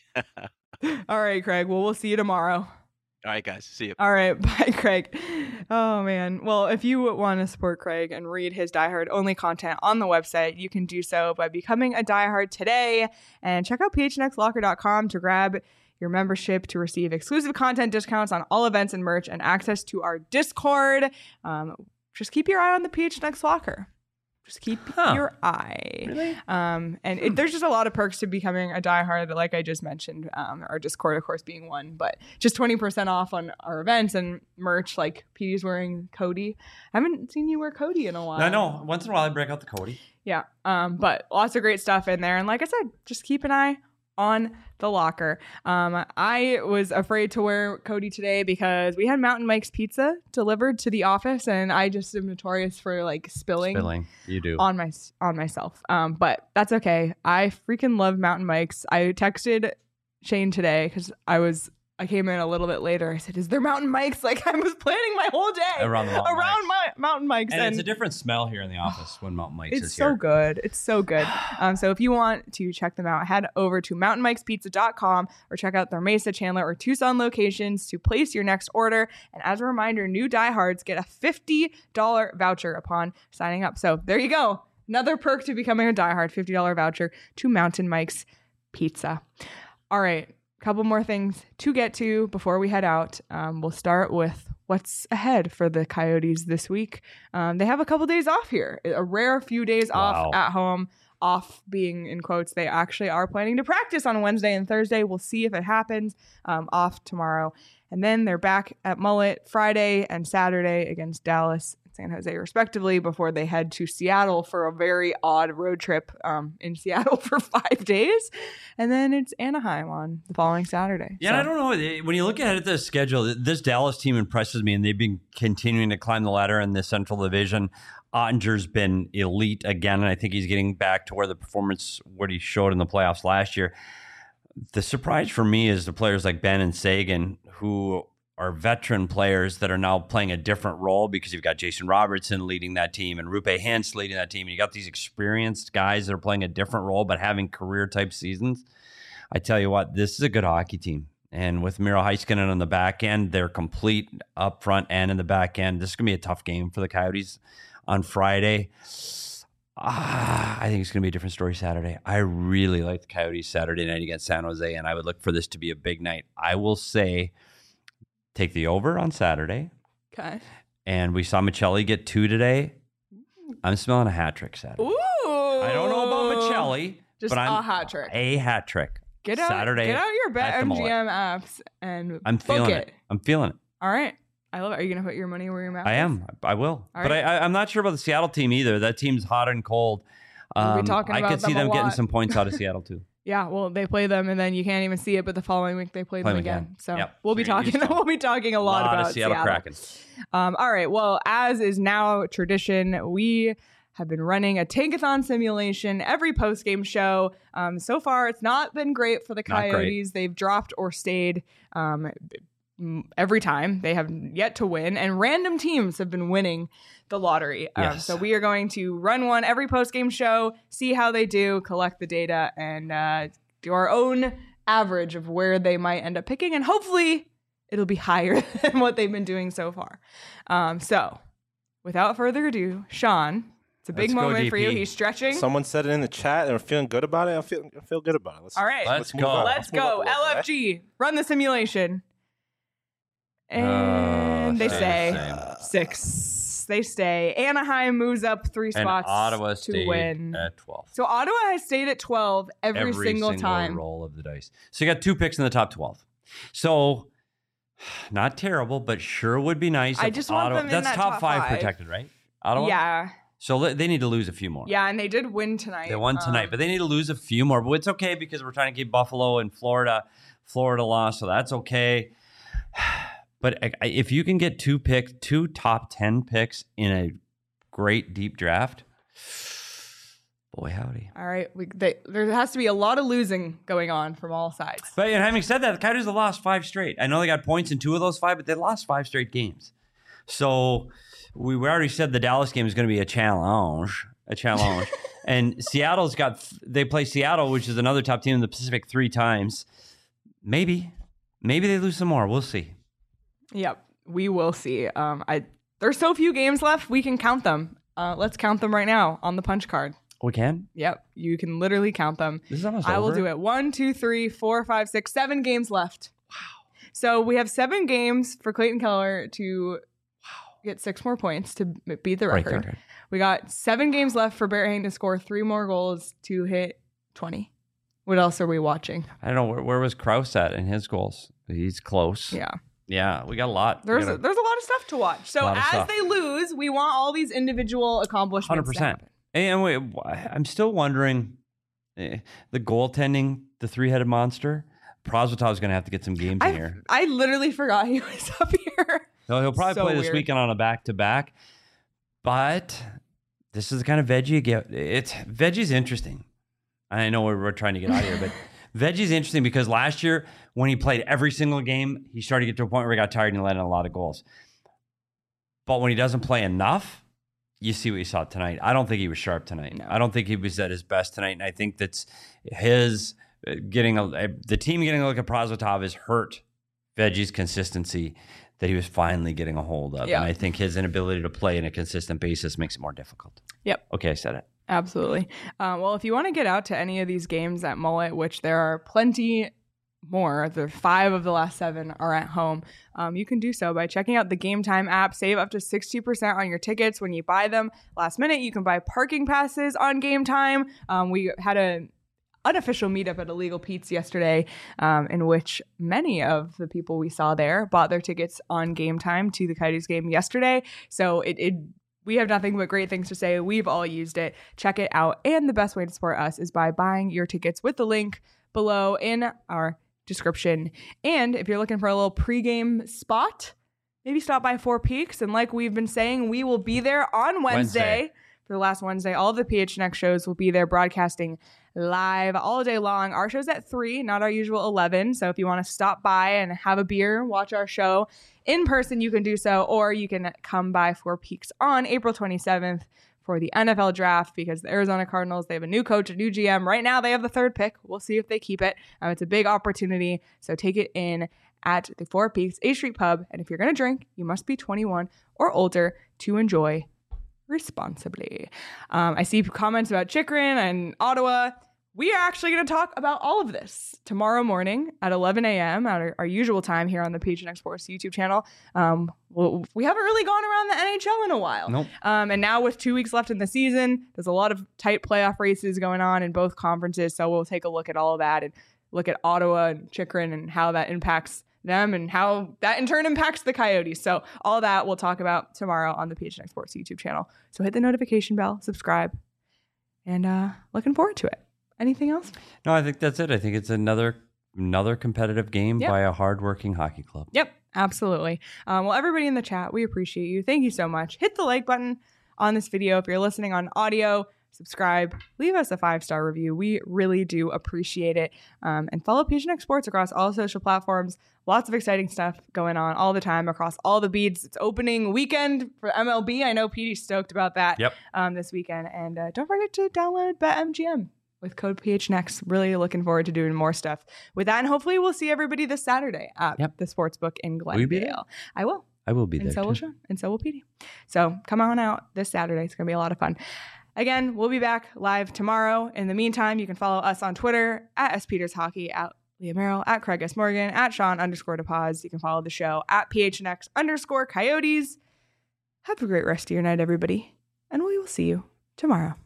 All right, Craig. Well, we'll see you tomorrow. All right, guys. See you. All right. Bye, Craig. Oh, man. Well, if you want to support Craig and read his diehard only content on the website, you can do so by becoming a diehard today, and check out p h n x locker dot com to grab your membership to receive exclusive content discounts on all events and merch and access to our Discord. Um, just keep your eye on the P H N X Locker. Just keep Huh. your eye. Really? Um, and it, there's just a lot of perks to becoming a diehard, like I just mentioned. Um, our Discord, of course, being one, but just twenty percent off on our events and merch. Like P D's wearing Cody. I haven't seen you wear Cody in a while. I know. Once in a while, I break out the Cody. Yeah. Um, but lots of great stuff in there. And like I said, just keep an eye on the locker. Um, I was afraid to wear Cody today because we had Mountain Mike's pizza delivered to the office, and I just am notorious for like spilling, Spilling. You do. on my on myself. Um, but that's okay. I freaking love Mountain Mike's. I texted Shane today because I was I came in a little bit later. I said, is there mountain mics? Like I was planning my whole day around the mountain around mics. my mountain mics. And, And, it's a different smell here in the office when mountain mics it's is so here. good. It's so good. Um, so if you want to check them out, head over to mountain mikes pizza dot com or check out their Mesa, Chandler, or Tucson locations to place your next order. And as a reminder, new diehards get a fifty dollars voucher upon signing up. So there you go. Another perk to becoming a diehard, fifty dollars voucher to Mountain Mike's Pizza. All right. Couple more things to get to before we head out. Um, we'll start with what's ahead for the Coyotes this week. Um, they have a couple days off here, a rare few days Wow. off at home. Off being in quotes, they actually are planning to practice on Wednesday and Thursday. We'll see if it happens. Um, off tomorrow. And then they're back at Mullet Friday and Saturday against Dallas and San Jose, respectively, before they head to Seattle for a very odd road trip um, in Seattle for five days. And then it's Anaheim on the following Saturday. Yeah, So- and I don't know. When you look at the schedule, this Dallas team impresses me, and they've been continuing to climb the ladder in the Central Division. Ottinger's been elite again, and I think he's getting back to where the performance, what he showed in the playoffs last year. The surprise for me is the players like Ben and Sagan, who are veteran players that are now playing a different role because you've got Jason Robertson leading that team and Rupe Hintz leading that team. And you got these experienced guys that are playing a different role but having career-type seasons. I tell you what, this is a good hockey team. And with Miro Heiskanen on the back end, they're complete up front and in the back end. This is going to be a tough game for the Coyotes on Friday. Ah, I think it's going to be a different story Saturday. I really like the Coyotes Saturday night against San Jose, and I would look for this to be a big night. I will say take the over on Saturday. Okay. And we saw Michelli get two today. I'm smelling a hat trick Saturday. Ooh. I don't know about Michelli, Just but I'm a hat trick. a hat trick. Get out, Saturday get out your at the Mullet. BetMGM apps and I'm book feeling it. it. I'm feeling it. All right. I love it. Are you going to put your money where your mouth I is? am. I will. All but right. I, I, I'm not sure about the Seattle team either. That team's hot and cold. We'll be Um, talking I about could see them a them getting lot. some points out of Seattle too. Yeah, well, they play them, and then you can't even see it. But the following week, they play, Play them them again. again. So Yep. we'll be So you're talking. used to it. We'll be talking a lot, lot about of Seattle, Kraken. Um, all right. Well, as is now tradition, we have been running a tankathon simulation every post game show. Um, so far, it's not been great for the Not great. Coyotes. They've dropped or stayed um, every time. They have yet to win, and random teams have been winning the lottery. Um, Yes. so we are going to run one every post game show, see how they do, collect the data, and uh, do our own average of where they might end up picking, and hopefully it'll be higher than what they've been doing so far. Um, so without further ado, Sean, it's a big Let's go, moment for you. D P. He's stretching. Someone said it in the chat and we're feeling good about it. I feel I feel good about it. Let's, All right. Let's move go. on. Let's move up go. a little L bit, F G, run the simulation. And Uh, they same, say same. six. They stay. Anaheim moves up three And spots Ottawa to stayed win. at twelve. So Ottawa has stayed at twelve every, Every single, time. roll of the dice. So you got two picks in the top twelve. So not terrible, but sure would be nice. I if just want Ottawa, them in that's that top, top five, five. protected, right? Ottawa. Yeah. So le- they need to lose a few more. Yeah, and they did win tonight. They won tonight, Um, but they need to lose a few more. But it's okay because we're trying to keep Buffalo and Florida. Florida lost, so that's okay. But I- I- if you can get two picks, two top ten picks in a great deep draft, boy howdy. all right, we, they, there has to be a lot of losing going on from all sides. But and having said that, the Coyotes have lost five straight. I know they got points in two of those five, but they lost five straight games. So we we already said the Dallas game is going to be a challenge, a challenge. And Seattle's got they play Seattle, which is another top team in the Pacific, three times. Maybe, maybe they lose some more. We'll see. Yep, we will see. Um, I there's so few games left, we can count them. Uh, let's count them right now on the punch card. We can. Yep, you can literally count them. This is almost I will over. do it. One, two, three, four, five, six, seven games left. Wow. So we have seven games for Clayton Keller to get six more points to m- beat the Right record. there. We got seven games left for Barrett Hayton to score three more goals to hit twenty. What else are we watching? I don't know where, where was Krause at in his goals. He's close. Yeah. Yeah, we got a lot. We There's got a, there's a lot of stuff to watch. So Lot of as stuff. they lose, we want all these individual accomplishments. Hundred to percent. happen. And wait, I'm still wondering eh, the goaltending, the three-headed monster. Prosvetov's going to have to get some games in I here. I literally forgot he was up here. So he'll probably So play this weird. weekend on a back-to-back. But this is the kind of veggie you get. It's veggie's interesting. I know we're, we're trying to get out of here, but Veggie's interesting because last year when he played every single game, he started to get to a point where he got tired and he let in a lot of goals. But when he doesn't play enough, you see what you saw tonight. I don't think he was sharp tonight. No. I don't think he was at his best tonight. And I think that's his getting a, the team getting a look at Prosvetov has hurt Veggie's consistency that he was finally getting a hold of. Yeah. And I think his inability to play in a consistent basis makes it more difficult. Yep. Okay, I said it. Absolutely. Um, well, if you want to get out to any of these games at Mullet, which there are plenty more, the five of the last seven are at home, um, you can do so by checking out the Game Time app. Save up to sixty percent on your tickets when you buy them last minute. You can buy parking passes on Game Time. Um, we had a unofficial meetup at Illegal Pete's yesterday, um, in which many of the people we saw there bought their tickets on Game Time to the Coyotes game yesterday. So it, it we have nothing but great things to say. We've all used it. Check it out. And the best way to support us is by buying your tickets with the link below in our description. And if you're looking for a little pregame spot, maybe stop by Four Peaks. And like we've been saying, we will be there on Wednesday. Wednesday. For the last Wednesday. All of the P H N X shows will be there broadcasting live all day long. Our show's at three, not our usual eleven. So if you want to stop by and have a beer, watch our show in person, you can do so. Or you can come by Four Peaks on April twenty-seventh for the N F L draft, because the Arizona Cardinals, they have a new coach, a new G M. Right now, they have the third pick. We'll see if they keep it. Um, it's a big opportunity. So take it in at the Four Peaks A Street Pub. And if you're going to drink, you must be twenty-one or older to enjoy responsibly. Um, I see comments about Chychrun and Ottawa. We are actually going to talk about all of this tomorrow morning at eleven a.m. at our, our usual time here on the P H N X Sports YouTube channel. Um, well, we haven't really gone around the N H L in a while. Nope. Um, and now with two weeks left in the season, there's a lot of tight playoff races going on in both conferences. So we'll take a look at all of that and look at Ottawa and Chychrun and how that impacts them and how that in turn impacts the Coyotes. So all that we'll talk about tomorrow on the P H N X Sports YouTube channel. So hit the notification bell, subscribe, and uh, looking forward to it. Anything else? No, I think that's it. I think it's another another competitive game yep. by a hardworking hockey club. Yep, absolutely. Um, well, everybody in the chat, we appreciate you. Thank you so much. Hit the like button on this video. If you're listening on audio, subscribe, leave us a five-star review. We really do appreciate it. Um, and follow P H N X Sports across all social platforms. Lots of exciting stuff going on all the time across all the beats. It's opening weekend for M L B. I know Petey's stoked about that yep. um, this weekend. And uh, don't forget to download BetMGM with code P H N X. Really looking forward to doing more stuff with that. And hopefully we'll see everybody this Saturday at yep. the Sportsbook in Will you be there? Glendale. I will. I will be and there. So too. will Sean. And so will Petey. So come on out this Saturday. It's going to be a lot of fun. Again, we'll be back live tomorrow. In the meantime, you can follow us on Twitter at S Peters Hockey, at Leah Merrill, at Craig S. Morgan, at Sean underscore DePaz. You can follow the show at P H N X underscore Coyotes. Have a great rest of your night, everybody. And we will see you tomorrow.